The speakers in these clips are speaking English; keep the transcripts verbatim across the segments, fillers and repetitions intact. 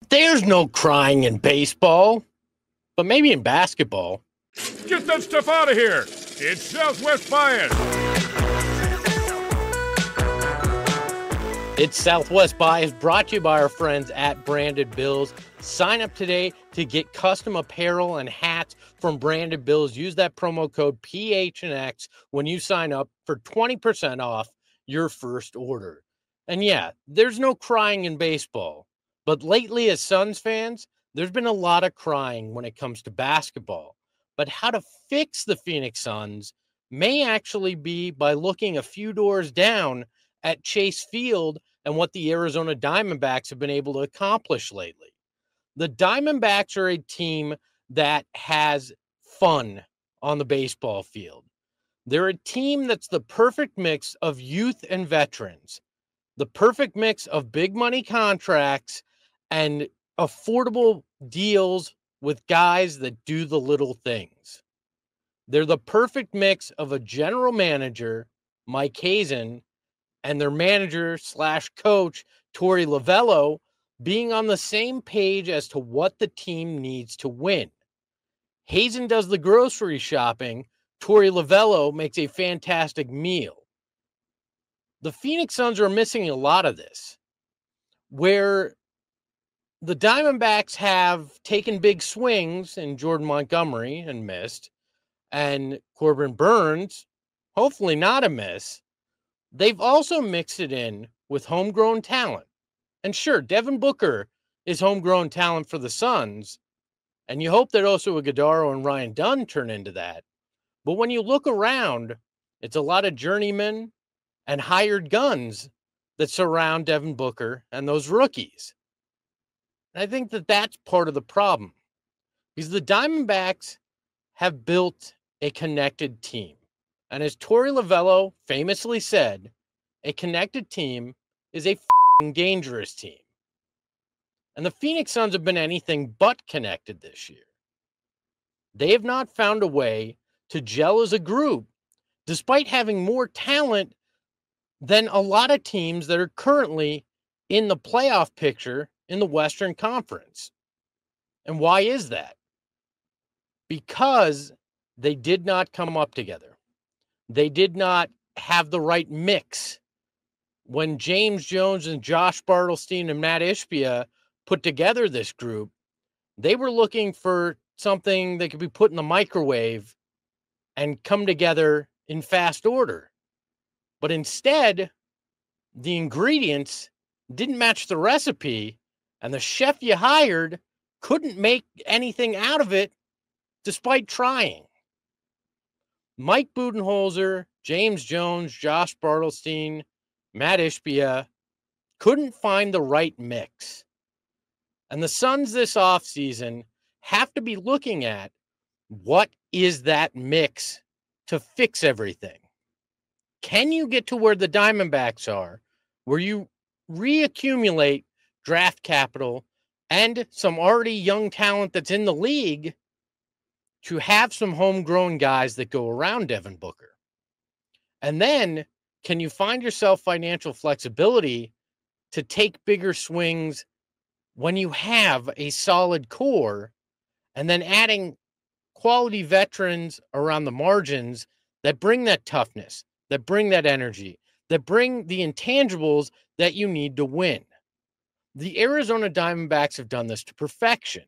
There's no crying in baseball, but maybe in basketball. Get that stuff out of here! It's Southwest Bias! It's Southwest Bias, brought to you by our friends at Branded Bills. Sign up today to get custom apparel and hats from Branded Bills. Use that promo code P H N X when you sign up for twenty percent off your first order. And yeah, there's no crying in baseball. But lately, as Suns fans, there's been a lot of crying when it comes to basketball. But how to fix the Phoenix Suns may actually be by looking a few doors down at Chase Field and what the Arizona Diamondbacks have been able to accomplish lately. The Diamondbacks are a team that has fun on the baseball field. They're a team that's the perfect mix of youth and veterans, the perfect mix of big money contracts and affordable deals with guys that do the little things. They're the perfect mix of a general manager, Mike Hazen, and their manager slash coach, Torey Lovullo, being on the same page as to what the team needs to win. Hazen does the grocery shopping. Torey Lovullo makes a fantastic meal. The Phoenix Suns are missing a lot of this, where the Diamondbacks have taken big swings in Jordan Montgomery and missed, and Corbin Burns, hopefully not a miss. They've also mixed it in with homegrown talent. And sure, Devin Booker is homegrown talent for the Suns, and you hope that Oso Ighodaro and Ryan Dunn turn into that. But when you look around, it's a lot of journeymen and hired guns that surround Devin Booker and those rookies. And I think that that's part of the problem, because the Diamondbacks have built a connected team. And as Torey Lovullo famously said, a connected team is a f***ing dangerous team. And the Phoenix Suns have been anything but connected this year. They have not found a way to gel as a group, despite having more talent than a lot of teams that are currently in the playoff picture in the Western Conference. And why is that? Because they did not come up together. They did not have the right mix. When James Jones and Josh Bartelstein and Matt Ishbia put together this group, they were looking for something that could be put in the microwave and come together in fast order. But instead, the ingredients didn't match the recipe, and the chef you hired couldn't make anything out of it despite trying. Mike Budenholzer, James Jones, Josh Bartelstein, Matt Ishbia couldn't find the right mix. And the Suns this offseason have to be looking at what is that mix to fix everything. Can you get to where the Diamondbacks are, where you reaccumulate draft capital and some already young talent that's in the league to have some homegrown guys that go around Devin Booker? And then can you find yourself financial flexibility to take bigger swings when you have a solid core, and then adding quality veterans around the margins that bring that toughness, that bring that energy, that bring the intangibles that you need to win? The Arizona Diamondbacks have done this to perfection.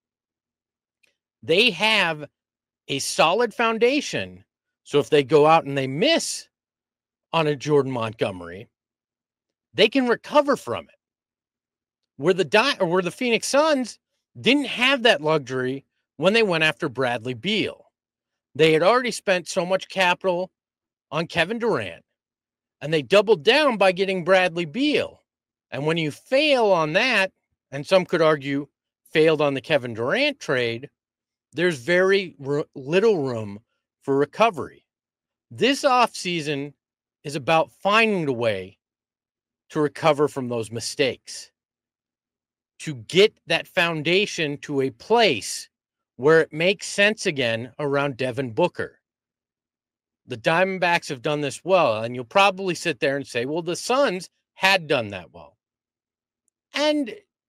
They have a solid foundation, so if they go out and they miss on a Jordan Montgomery, they can recover from it. Where the Di- or where the Phoenix Suns didn't have that luxury when they went after Bradley Beal. They had already spent so much capital on Kevin Durant, and they doubled down by getting Bradley Beal. And when you fail on that, and some could argue failed on the Kevin Durant trade, there's very r- little room for recovery. This offseason is about finding a way to recover from those mistakes, to get that foundation to a place where it makes sense again around Devin Booker. The Diamondbacks have done this well, and you'll probably sit there and say, well, the Suns had done that well. And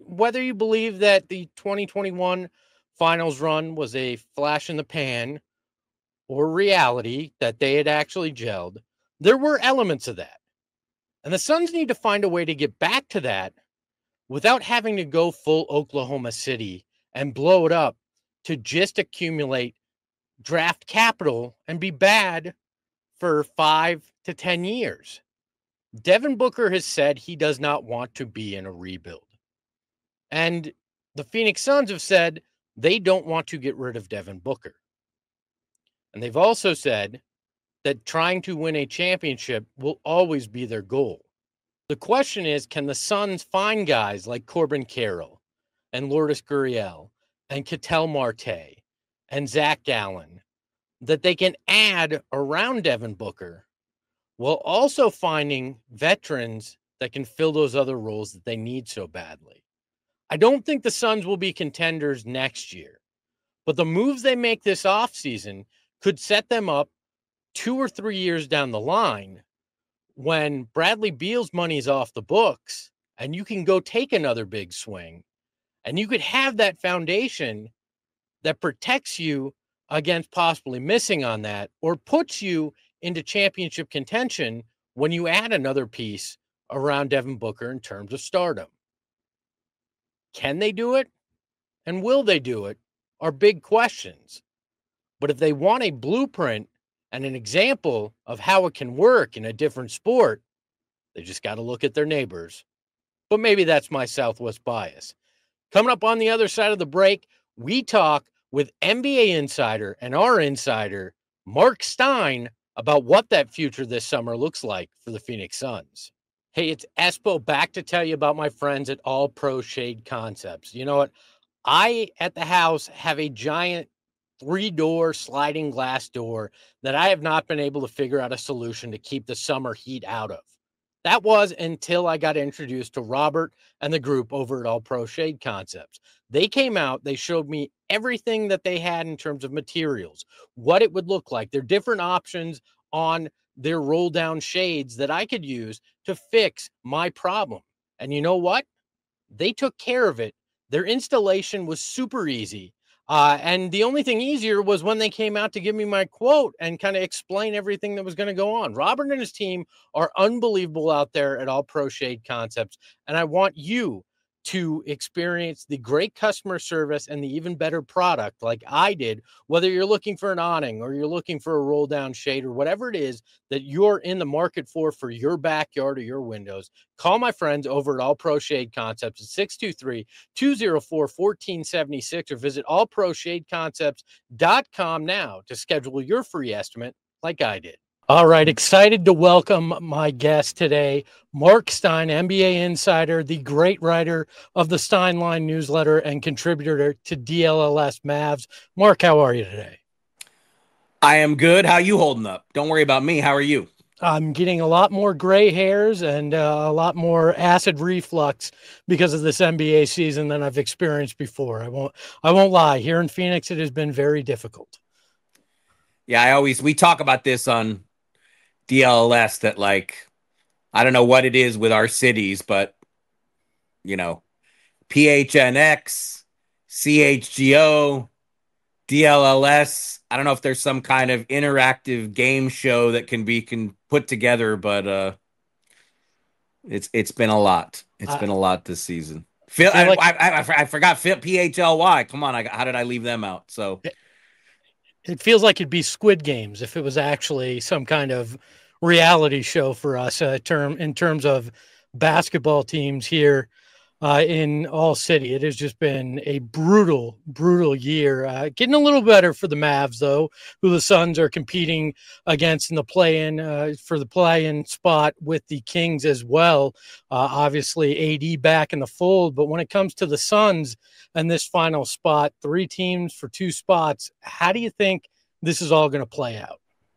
whether you believe that the twenty twenty-one finals run was a flash in the pan or reality that they had actually gelled, there were elements of that. And the Suns need to find a way to get back to that without having to go full Oklahoma City and blow it up to just accumulate draft capital and be bad for five to ten years. Devin Booker has said he does not want to be in a rebuild. And the Phoenix Suns have said they don't want to get rid of Devin Booker. And they've also said that trying to win a championship will always be their goal. The question is, can the Suns find guys like Corbin Carroll and Lourdes Gurriel and Ketel Marte and Zach Gallen that they can add around Devin Booker while also finding veterans that can fill those other roles that they need so badly? I don't think the Suns will be contenders next year, but the moves they make this offseason could set them up two or three years down the line when Bradley Beal's money is off the books and you can go take another big swing and you could have that foundation that protects you against possibly missing on that or puts you into championship contention when you add another piece around Devin Booker in terms of stardom. Can they do it? And will they do it? Are big questions. But if they want a blueprint and an example of how it can work in a different sport, they just got to look at their neighbors. But maybe that's my Southwest bias. Coming up on the other side of the break, we talk with N B A insider and our insider, Mark Stein, about what that future this summer looks like for the Phoenix Suns. Hey, it's Espo back to tell you about my friends at All Pro Shade Concepts. You know what? I, at the house, have a giant three-door sliding glass door that I have not been able to figure out a solution to keep the summer heat out of. That was until I got introduced to Robert and the group over at All Pro Shade Concepts. They came out, they showed me everything that they had in terms of materials, what it would look like, their different options on their roll-down shades that I could use to fix my problem. And you know what? They took care of it. Their installation was super easy. Uh, and the only thing easier was when they came out to give me my quote and kind of explain everything that was going to go on. Robert and his team are unbelievable out there at All Pro Shade Concepts. And I want you to experience the great customer service and the even better product like I did, whether you're looking for an awning or you're looking for a roll down shade or whatever it is that you're in the market for, for your backyard or your windows. Call my friends over at All Pro Shade Concepts at six two three, two oh four, one four seven six or visit all pro shade concepts dot com now to schedule your free estimate like I did. All right, excited to welcome my guest today, Mark Stein, N B A insider, the great writer of the Steinline newsletter and contributor to D L L S Mavs. Mark, how are you today? I am good. How you holding up? Don't worry about me. How are you? I'm getting a lot more gray hairs and uh, a lot more acid reflux because of this N B A season than I've experienced before. I won't, I won't lie. Here in Phoenix, it has been very difficult. Yeah, I always, we talk about this on D L L S that, like, I don't know what it is with our cities, but, you know, P H N X, C H G O, D L L S. I don't know if there's some kind of interactive game show that can be can put together, but uh, it's it's been a lot. It's uh, been a lot this season. Phil, I, like, I, I, I forgot Phil, P H L Y. Come on, I, how did I leave them out? So it feels like it'd be Squid Games if it was actually some kind of reality show for us uh, term in terms of basketball teams here uh, in All City. It has just been a brutal, brutal year. Uh, getting a little better for the Mavs, though, who the Suns are competing against in the play-in uh, for the play-in spot with the Kings as well. Uh, obviously, A D back in the fold, but when it comes to the Suns and this final spot, three teams for two spots, how do you think this is all going to play out?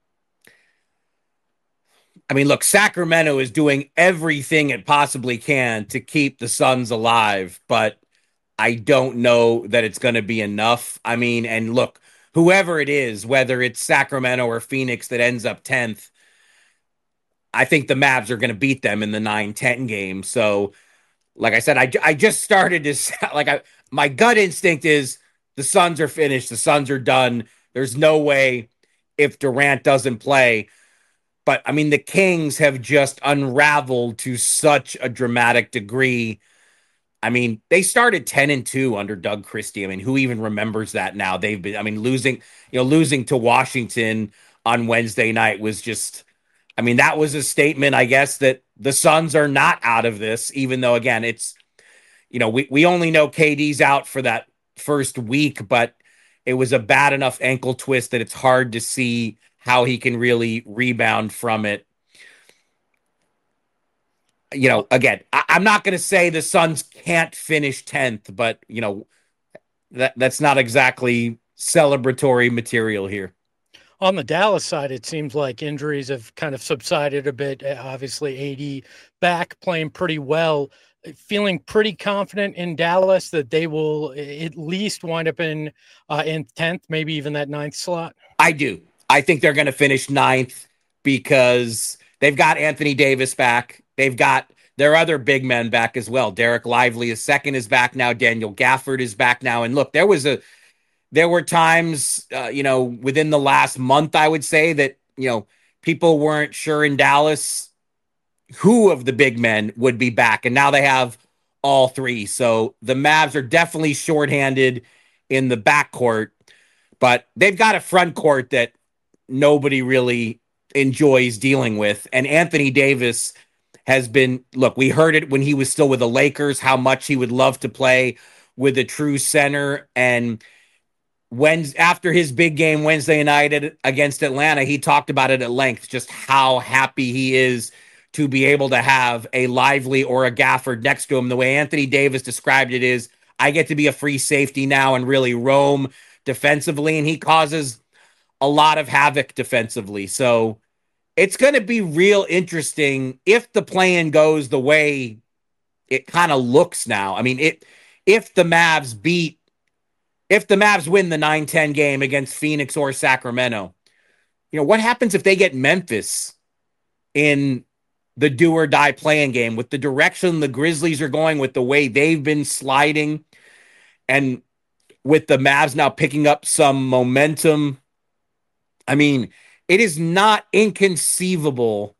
I mean, look, Sacramento is doing everything it possibly can to keep the Suns alive, but I don't know that it's going to be enough. I mean, and look, whoever it is, whether it's Sacramento or Phoenix that ends up tenth, I think the Mavs are going to beat them in the nine ten game. So like I said, I, I just started to like I my gut instinct is the Suns are finished. The Suns are done. There's no way if Durant doesn't play. But I mean, the Kings have just unraveled to such a dramatic degree. I mean, they started ten and two under Doug Christie. I mean, who even remembers that now? They've been, I mean, losing, you know, losing to Washington on Wednesday night was just, I mean, that was a statement, I guess, that the Suns are not out of this, even though, again, it's, you know, we, we only know K D's out for that first week, but it was a bad enough ankle twist that it's hard to see how he can really rebound from it. You know, again, I, I'm not going to say the Suns can't finish tenth, but, you know, that that's not exactly celebratory material here. On the Dallas side, it seems like injuries have kind of subsided a bit. Obviously, A D back playing pretty well. Feeling pretty confident in Dallas that they will at least wind up in uh, in tenth, maybe even that ninth slot? I do. I think they're going to finish ninth because they've got Anthony Davis back. They've got their other big men back as well. Derek Lively is second is back now. Daniel Gafford is back now. And look, there was a there were times, uh, you know, within the last month, I would say that, you know, people weren't sure in Dallas who of the big men would be back. And now they have all three. So the Mavs are definitely shorthanded in the backcourt, but they've got a front court that nobody really enjoys dealing with. And Anthony Davis has been, look, we heard it when he was still with the Lakers, how much he would love to play with a true center. And when, after his big game Wednesday night against Atlanta, he talked about it at length, just how happy he is to be able to have a Lively or a Gafford next to him. The way Anthony Davis described it is, I get to be a free safety now and really roam defensively, and he causes a lot of havoc defensively. So it's going to be real interesting if the plan goes the way it kind of looks now. I mean, it if the Mavs beat, if the Mavs win the nine ten game against Phoenix or Sacramento, you know, what happens if they get Memphis in the do or die playing game with the direction the Grizzlies are going, with the way they've been sliding, and with the Mavs now picking up some momentum? I mean, it is not inconceivable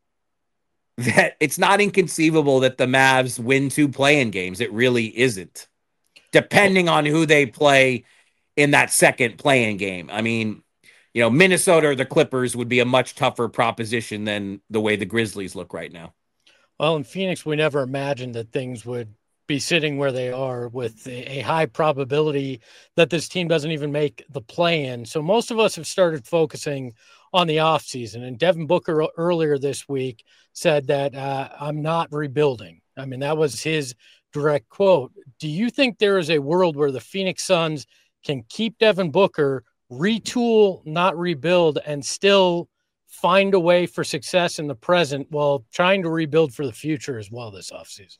that it's not inconceivable that the Mavs win two play-in games. It really isn't, depending on who they play in that second play-in game. I mean, you know, Minnesota or the Clippers would be a much tougher proposition than the way the Grizzlies look right now. Well, in Phoenix, we never imagined that things would be sitting where they are, with a, a high probability that this team doesn't even make the play-in. So most of us have started focusing on the offseason. And Devin Booker earlier this week said that uh, I'm not rebuilding. I mean, that was his direct quote. Do you think there is a world where the Phoenix Suns can keep Devin Booker, retool, not rebuild, and still find a way for success in the present while trying to rebuild for the future as well this offseason?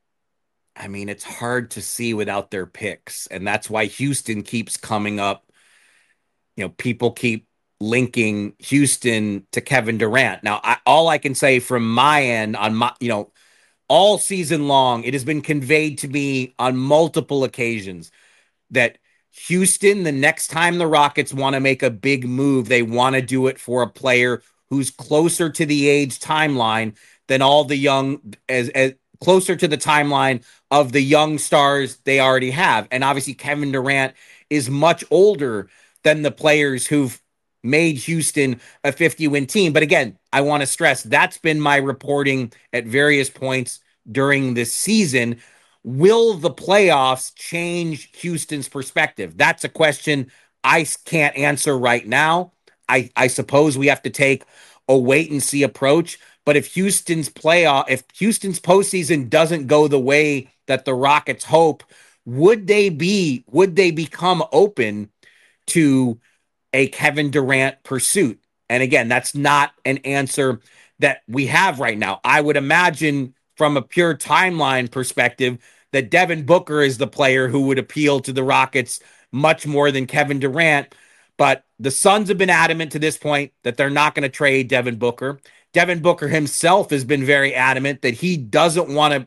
I mean, it's hard to see without their picks, and that's why Houston keeps coming up. You know, people keep linking Houston to Kevin Durant. Now, I, all I can say from my end on my, you know, all season long, it has been conveyed to me on multiple occasions that Houston, the next time the Rockets want to make a big move, they want to do it for a player who's closer to the age timeline than all the young, as, as closer to the timeline of the young stars they already have. And obviously Kevin Durant is much older than the players who've made Houston a fifty-win team. But again, I want to stress that's been my reporting at various points during this season. Will the playoffs change Houston's perspective? That's a question I can't answer right now. I, I suppose we have to take a wait and see approach. But if Houston's playoff, if Houston's postseason doesn't go the way that the Rockets hope, would they be, would they become open to a Kevin Durant pursuit? And again, that's not an answer that we have right now. I would imagine from a pure timeline perspective that Devin Booker is the player who would appeal to the Rockets much more than Kevin Durant. But the Suns have been adamant to this point that they're not going to trade Devin Booker. Devin Booker himself has been very adamant that he doesn't want to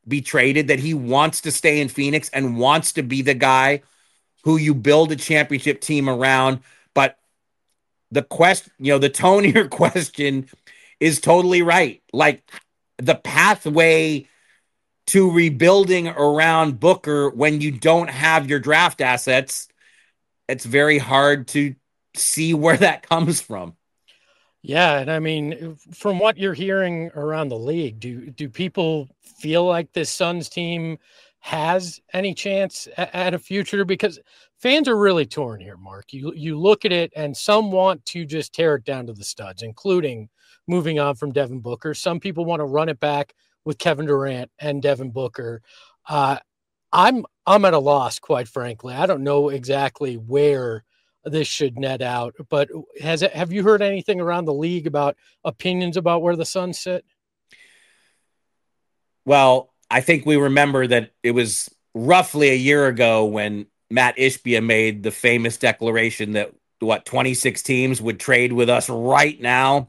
be traded, that he wants to stay in Phoenix and wants to be the guy who you build a championship team around. But the question, you know, the tone of your question is totally right. Like, the pathway to rebuilding around Booker when you don't have your draft assets, it's very hard to see where that comes from. Yeah, and I mean, from what you're hearing around the league, do do people feel like this Suns team has any chance at, at a future? Because fans are really torn here, Mark. You you look at it, and some want to just tear it down to the studs, including moving on from Devin Booker. Some people want to run it back with Kevin Durant and Devin Booker. Uh, I'm I'm at a loss, quite frankly. I don't know exactly where this should net out, but has it, have you heard anything around the league about opinions about where the Suns sit? Well, I think we remember that it was roughly a year ago when Matt Ishbia made the famous declaration that, what, twenty-six teams would trade with us right now.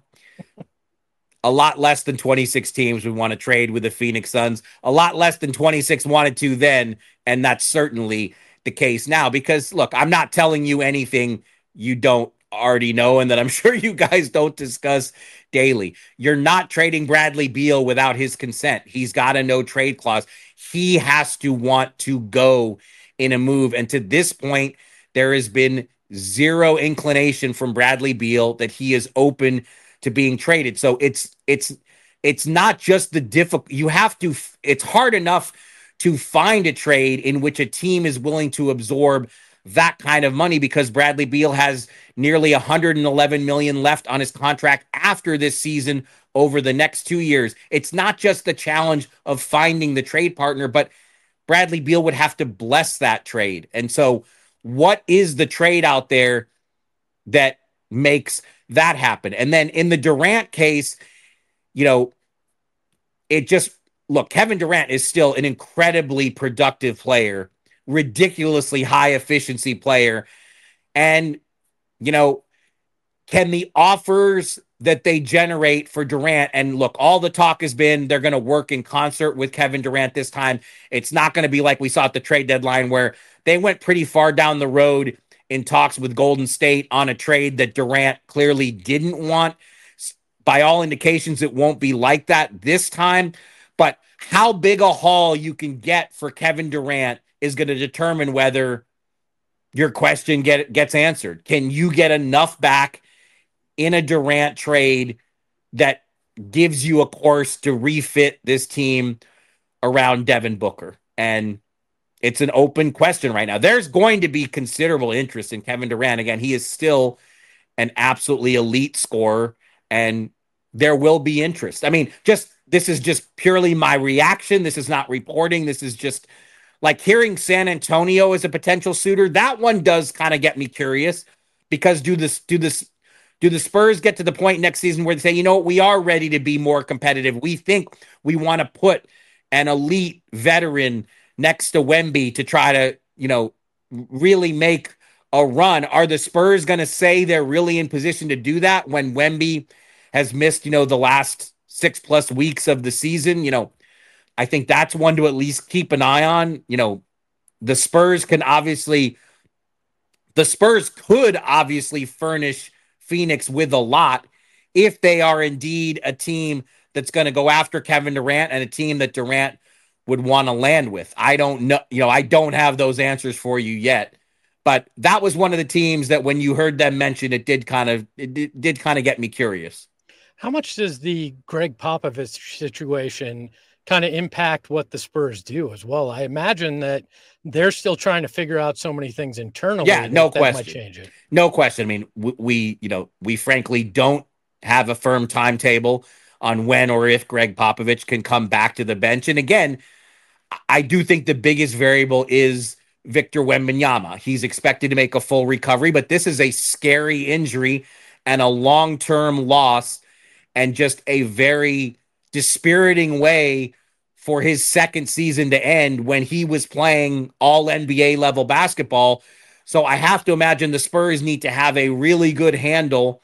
A lot less than twenty-six teams would want to trade with the Phoenix Suns. A lot less than twenty-six wanted to then, and that's certainly the case now. Because, look, I'm not telling you anything you don't already know and that I'm sure you guys don't discuss daily. You're not trading Bradley Beal without his consent. He's got a no trade clause. He has to want to go in a move. And to this point, there has been zero inclination from Bradley Beal that he is open to being traded. So it's it's it's not just the difficult. You have to. It's hard enough to find a trade in which a team is willing to absorb that kind of money, because Bradley Beal has nearly one hundred eleven million dollars left on his contract after this season over the next two years. It's not just the challenge of finding the trade partner, but Bradley Beal would have to bless that trade. And so what is the trade out there that makes that happen? And then in the Durant case, you know, it just, look, Kevin Durant is still an incredibly productive player, ridiculously high efficiency player. And, you know, can the offers that they generate for Durant, and look, all the talk has been they're going to work in concert with Kevin Durant this time. It's not going to be like we saw at the trade deadline where they went pretty far down the road in talks with Golden State on a trade that Durant clearly didn't want. By all indications, it won't be like that this time. But how big a haul you can get for Kevin Durant is going to determine whether your question get, gets answered. Can you get enough back in a Durant trade that gives you a course to refit this team around Devin Booker? And it's an open question right now. There's going to be considerable interest in Kevin Durant. Again, he is still an absolutely elite scorer, and there will be interest. I mean, just this is just purely my reaction. This is not reporting. This is just like hearing San Antonio as a potential suitor. That one does kind of get me curious, because do this, do this, do the Spurs get to the point next season where they say, you know what, we are ready to be more competitive. We think we want to put an elite veteran next to Wemby to try to, you know, really make a run. Are the Spurs going to say they're really in position to do that when Wemby has missed, you know, the last six plus weeks of the season? You know, I think that's one to at least keep an eye on. You know, the Spurs can obviously, the Spurs could obviously furnish Phoenix with a lot if they are indeed a team that's going to go after Kevin Durant and a team that Durant would want to land with. I don't know, you know, I don't have those answers for you yet, but that was one of the teams that when you heard them mention, it did kind of, it did, did kind of get me curious. How much does the Greg Popovich situation kind of impact what the Spurs do as well? I imagine that they're still trying to figure out so many things internally. Yeah, no that, question. That might change it. No question. I mean, we, we, you know, we frankly don't have a firm timetable on when or if Greg Popovich can come back to the bench. And again, I do think the biggest variable is Victor Wembanyama. He's expected to make a full recovery, but this is a scary injury and a long-term loss, and just a very dispiriting way for his second season to end when he was playing all N B A level basketball. So I have to imagine the Spurs need to have a really good handle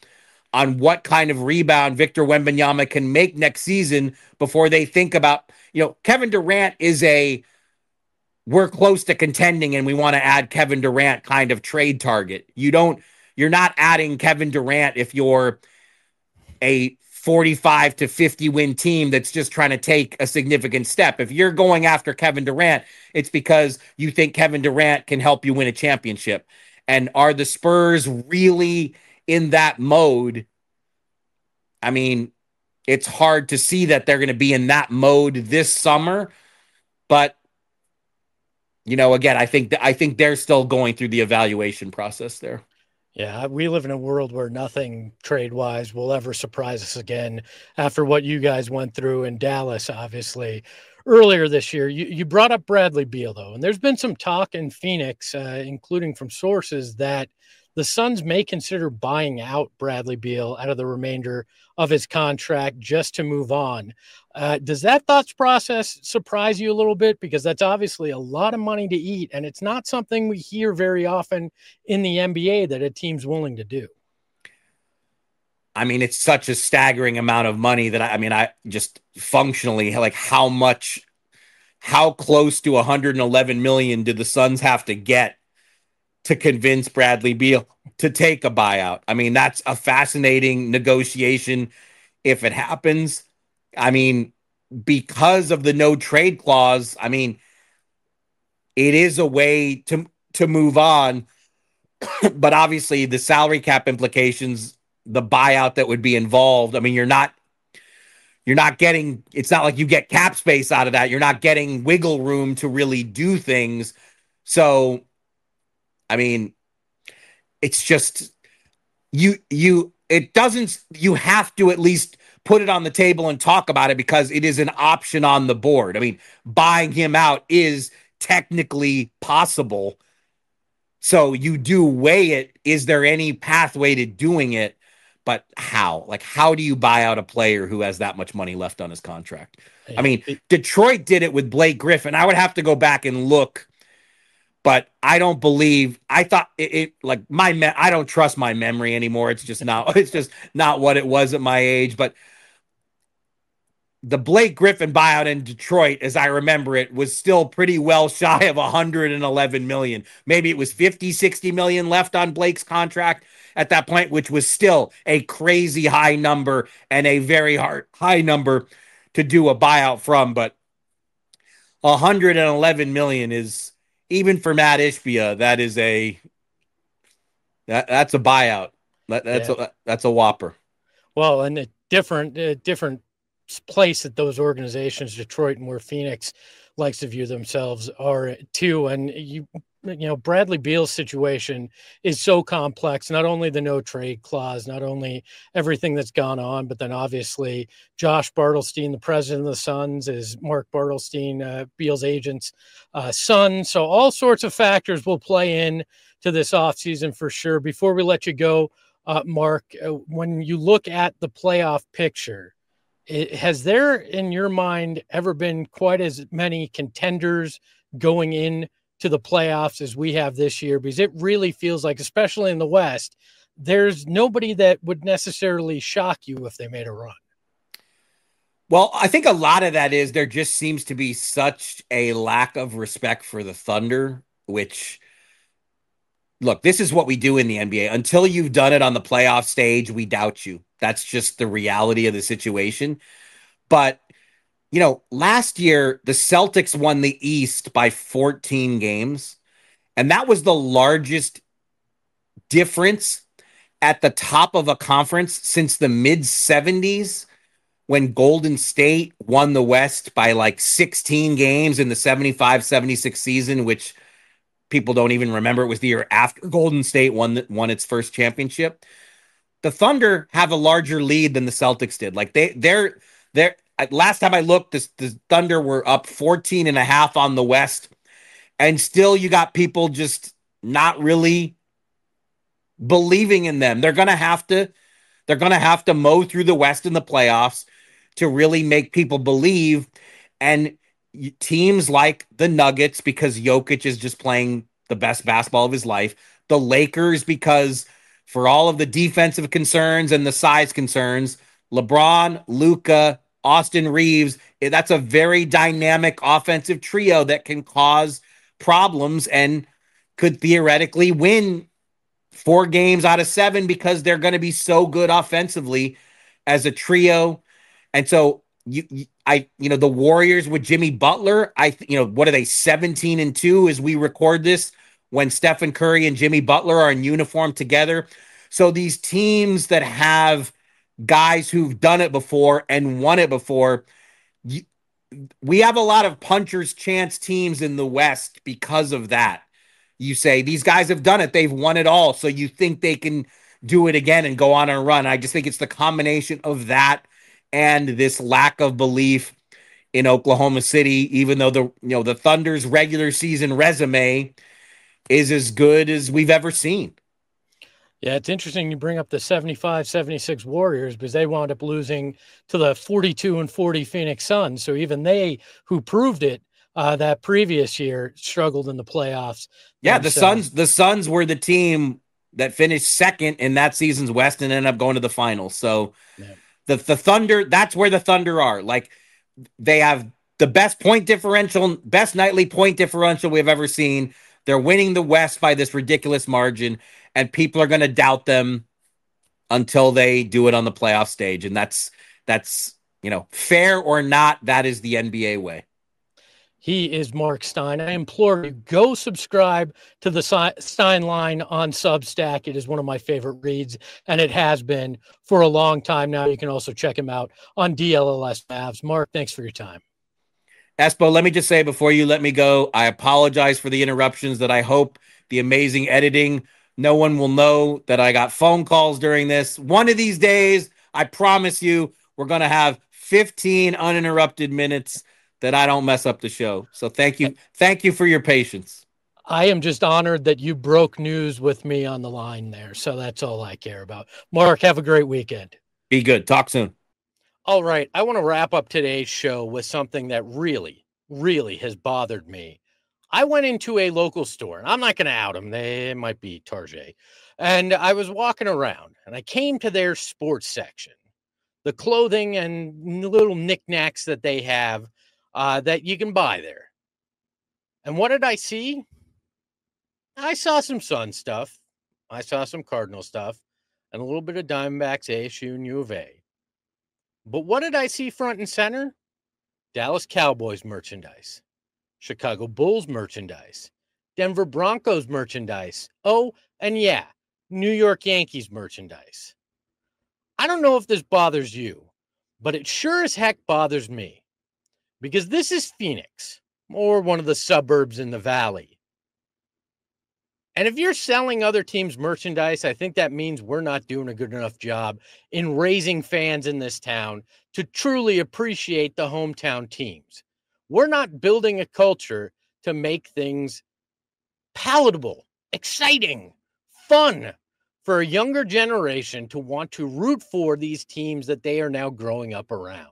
on what kind of rebound Victor Wembanyama can make next season before they think about, you know, Kevin Durant is a, we're close to contending and we want to add Kevin Durant kind of trade target. You don't, you're not adding Kevin Durant if you're a forty-five to fifty win team that's just trying to take a significant step. If you're going after Kevin Durant, it's because you think Kevin Durant can help you win a championship. And are the Spurs really in that mode? I mean, it's hard to see that they're going to be in that mode this summer, but you know, again, I think th- I think they're still going through the evaluation process there. Yeah, we live in a world where nothing trade-wise will ever surprise us again after what you guys went through in Dallas, obviously, earlier this year. You, you brought up Bradley Beal, though, and there's been some talk in Phoenix, uh, including from sources, that the Suns may consider buying out Bradley Beal out of the remainder of his contract just to move on. Uh, does that thoughts process surprise you a little bit? Because that's obviously a lot of money to eat, and it's not something we hear very often in the N B A that a team's willing to do. I mean, it's such a staggering amount of money that I, I mean, I just functionally, like how much, how close to one hundred eleven million did the Suns have to get to convince Bradley Beal to take a buyout? I mean, that's a fascinating negotiation if it happens. I mean, because of the no trade clause, I mean, it is a way to to move on. But obviously the salary cap implications, the buyout that would be involved, I mean, you're not you're not getting, it's not like you get cap space out of that. You're not getting wiggle room to really do things. So, I mean, it's just you you it doesn't you have to at least put it on the table and talk about it because it is an option on the board. I mean, buying him out is technically possible. So you do weigh it. Is there any pathway to doing it? But how? Like, how do you buy out a player who has that much money left on his contract? I mean, Detroit did it with Blake Griffin. I would have to go back and look, but I don't believe, I thought it, it like my, me- I don't trust my memory anymore. It's just not, it's just not what it was at my age. But the Blake Griffin buyout in Detroit, as I remember it, was still pretty well shy of one hundred eleven million. Maybe it was fifty, sixty million left on Blake's contract at that point, which was still a crazy high number and a very hard high number to do a buyout from. But one hundred eleven million is, even for Matt Ishbia, that is a that that's a buyout. That, that's yeah. a that's a whopper. Well, and a different uh, different place that those organizations, Detroit and where Phoenix likes to view themselves, are too. And you you know, Bradley Beal's situation is so complex, not only the no trade clause, not only everything that's gone on, but then obviously Josh Bartelstein, the president of the Suns, is Mark Bartelstein, uh, Beal's agent's uh, son. So all sorts of factors will play in to this offseason for sure. Before we let you go, uh, Mark, uh, when you look at the playoff picture, it, has there in your mind ever been quite as many contenders going in to the playoffs as we have this year? Because it really feels like, especially in the West, there's nobody that would necessarily shock you if they made a run. Well, I think a lot of that is there just seems to be such a lack of respect for the Thunder, which, look, this is what we do in the N B A. Until you've done it on the playoff stage, we doubt you. That's just the reality of the situation. But you know, last year, the Celtics won the East by fourteen games, and that was the largest difference at the top of a conference since the mid seventies, when Golden State won the West by like sixteen games in the seventy-five seventy-six season, which people don't even remember. It was the year after Golden State won, won its first championship. The Thunder have a larger lead than the Celtics did. Like they, they're, they're, last time I looked, the, the Thunder were up fourteen and a half on the West, and still you got people just not really believing in them. They're going to have to, they're going to have to mow through the West in the playoffs to really make people believe. And teams like the Nuggets, because Jokic is just playing the best basketball of his life, the Lakers, because for all of the defensive concerns and the size concerns, LeBron, Luka, Austin Reeves, that's a very dynamic offensive trio that can cause problems and could theoretically win four games out of seven because they're going to be so good offensively as a trio. And so you, you I, you know, the Warriors with Jimmy Butler, I, you know, what are they, seventeen and two as we record this, when Stephen Curry and Jimmy Butler are in uniform together. So these teams that have guys who've done it before and won it before, you, we have a lot of puncher's chance teams in the West because of that. You say these guys have done it, they've won it all, so you think they can do it again and go on a run. I just think it's the combination of that and this lack of belief in Oklahoma City, even though the you know the Thunder's regular season resume is as good as we've ever seen. Yeah, it's interesting you bring up the seventy-five seventy-six Warriors, because they wound up losing to the forty-two and forty Phoenix Suns. So even they, who proved it uh, that previous year, struggled in the playoffs. Yeah, the Suns, the Suns were the team that finished second in that season's West and ended up going to the finals. So yeah. the, the Thunder, that's where the Thunder are. Like, they have the best point differential, best nightly point differential we've ever seen. They're winning the West by this ridiculous margin, and people are going to doubt them until they do it on the playoff stage. And that's, that's, you know, fair or not, that is the N B A way. He is Mark Stein. I implore you, go subscribe to the Stein Line on Substack. It is one of my favorite reads, and it has been for a long time now. You can also check him out on D L L S Mavs. Mark, thanks for your time. Espo, let me just say before you let me go, I apologize for the interruptions, that I hope the amazing editing, no one will know that I got phone calls during this. One of these days, I promise you, we're going to have fifteen uninterrupted minutes that I don't mess up the show. So thank you. Thank you for your patience. I am just honored that you broke news with me on the line there. So that's all I care about. Mark, have a great weekend. Be good. Talk soon. All right. I want to wrap up today's show with something that really, really has bothered me. I went into a local store, and I'm not going to out them. They might be Target. And I was walking around, and I came to their sports section, the clothing and little knickknacks that they have Uh, that you can buy there. And what did I see? I saw some Sun stuff. I saw some Cardinal stuff and a little bit of Diamondbacks, A S U, and U of A. But what did I see front and center? Dallas Cowboys merchandise, Chicago Bulls merchandise, Denver Broncos merchandise. Oh, and yeah, New York Yankees merchandise. I don't know if this bothers you, but it sure as heck bothers me. Because this is Phoenix, or one of the suburbs in the valley. And if you're selling other teams' merchandise, I think that means we're not doing a good enough job in raising fans in this town to truly appreciate the hometown teams. We're not building a culture to make things palatable, exciting, fun for a younger generation to want to root for these teams that they are now growing up around.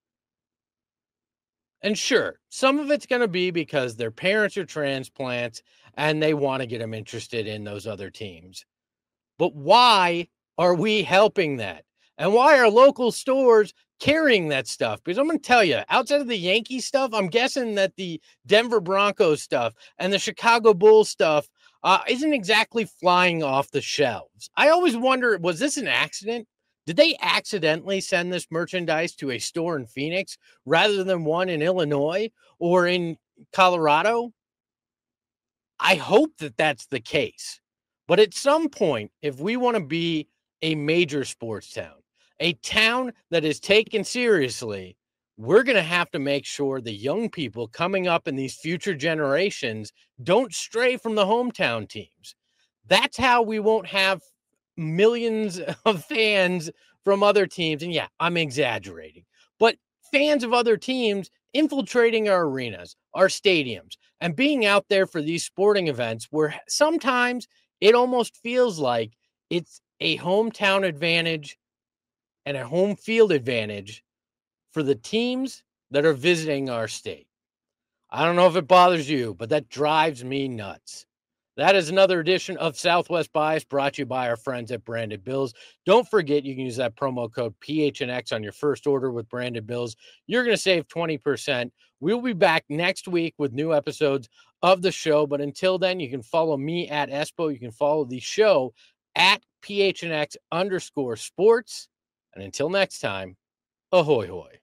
And sure, some of it's going to be because their parents are transplants and they want to get them interested in those other teams. But why are we helping that? And why are local stores carrying that stuff? Because I'm going to tell you, outside of the Yankee stuff, I'm guessing that the Denver Broncos stuff and the Chicago Bulls stuff uh, isn't exactly flying off the shelves. I always wonder, was this an accident? Did they accidentally send this merchandise to a store in Phoenix rather than one in Illinois or in Colorado? I hope that that's the case. But at some point, if we want to be a major sports town, a town that is taken seriously, we're going to have to make sure the young people coming up in these future generations don't stray from the hometown teams. That's how we won't have millions of fans from other teams. And yeah, I'm exaggerating, but fans of other teams infiltrating our arenas, our stadiums, and being out there for these sporting events where sometimes it almost feels like it's a hometown advantage and a home field advantage for the teams that are visiting our state. I don't know if it bothers you, but that drives me nuts. That is another edition of Southwest Bias brought to you by our friends at Branded Bills. Don't forget, you can use that promo code P H N X on your first order with Branded Bills. You're going to save twenty percent. We'll be back next week with new episodes of the show. But until then, you can follow me at Espo. You can follow the show at P H N X underscore sports. And until next time, ahoy hoy.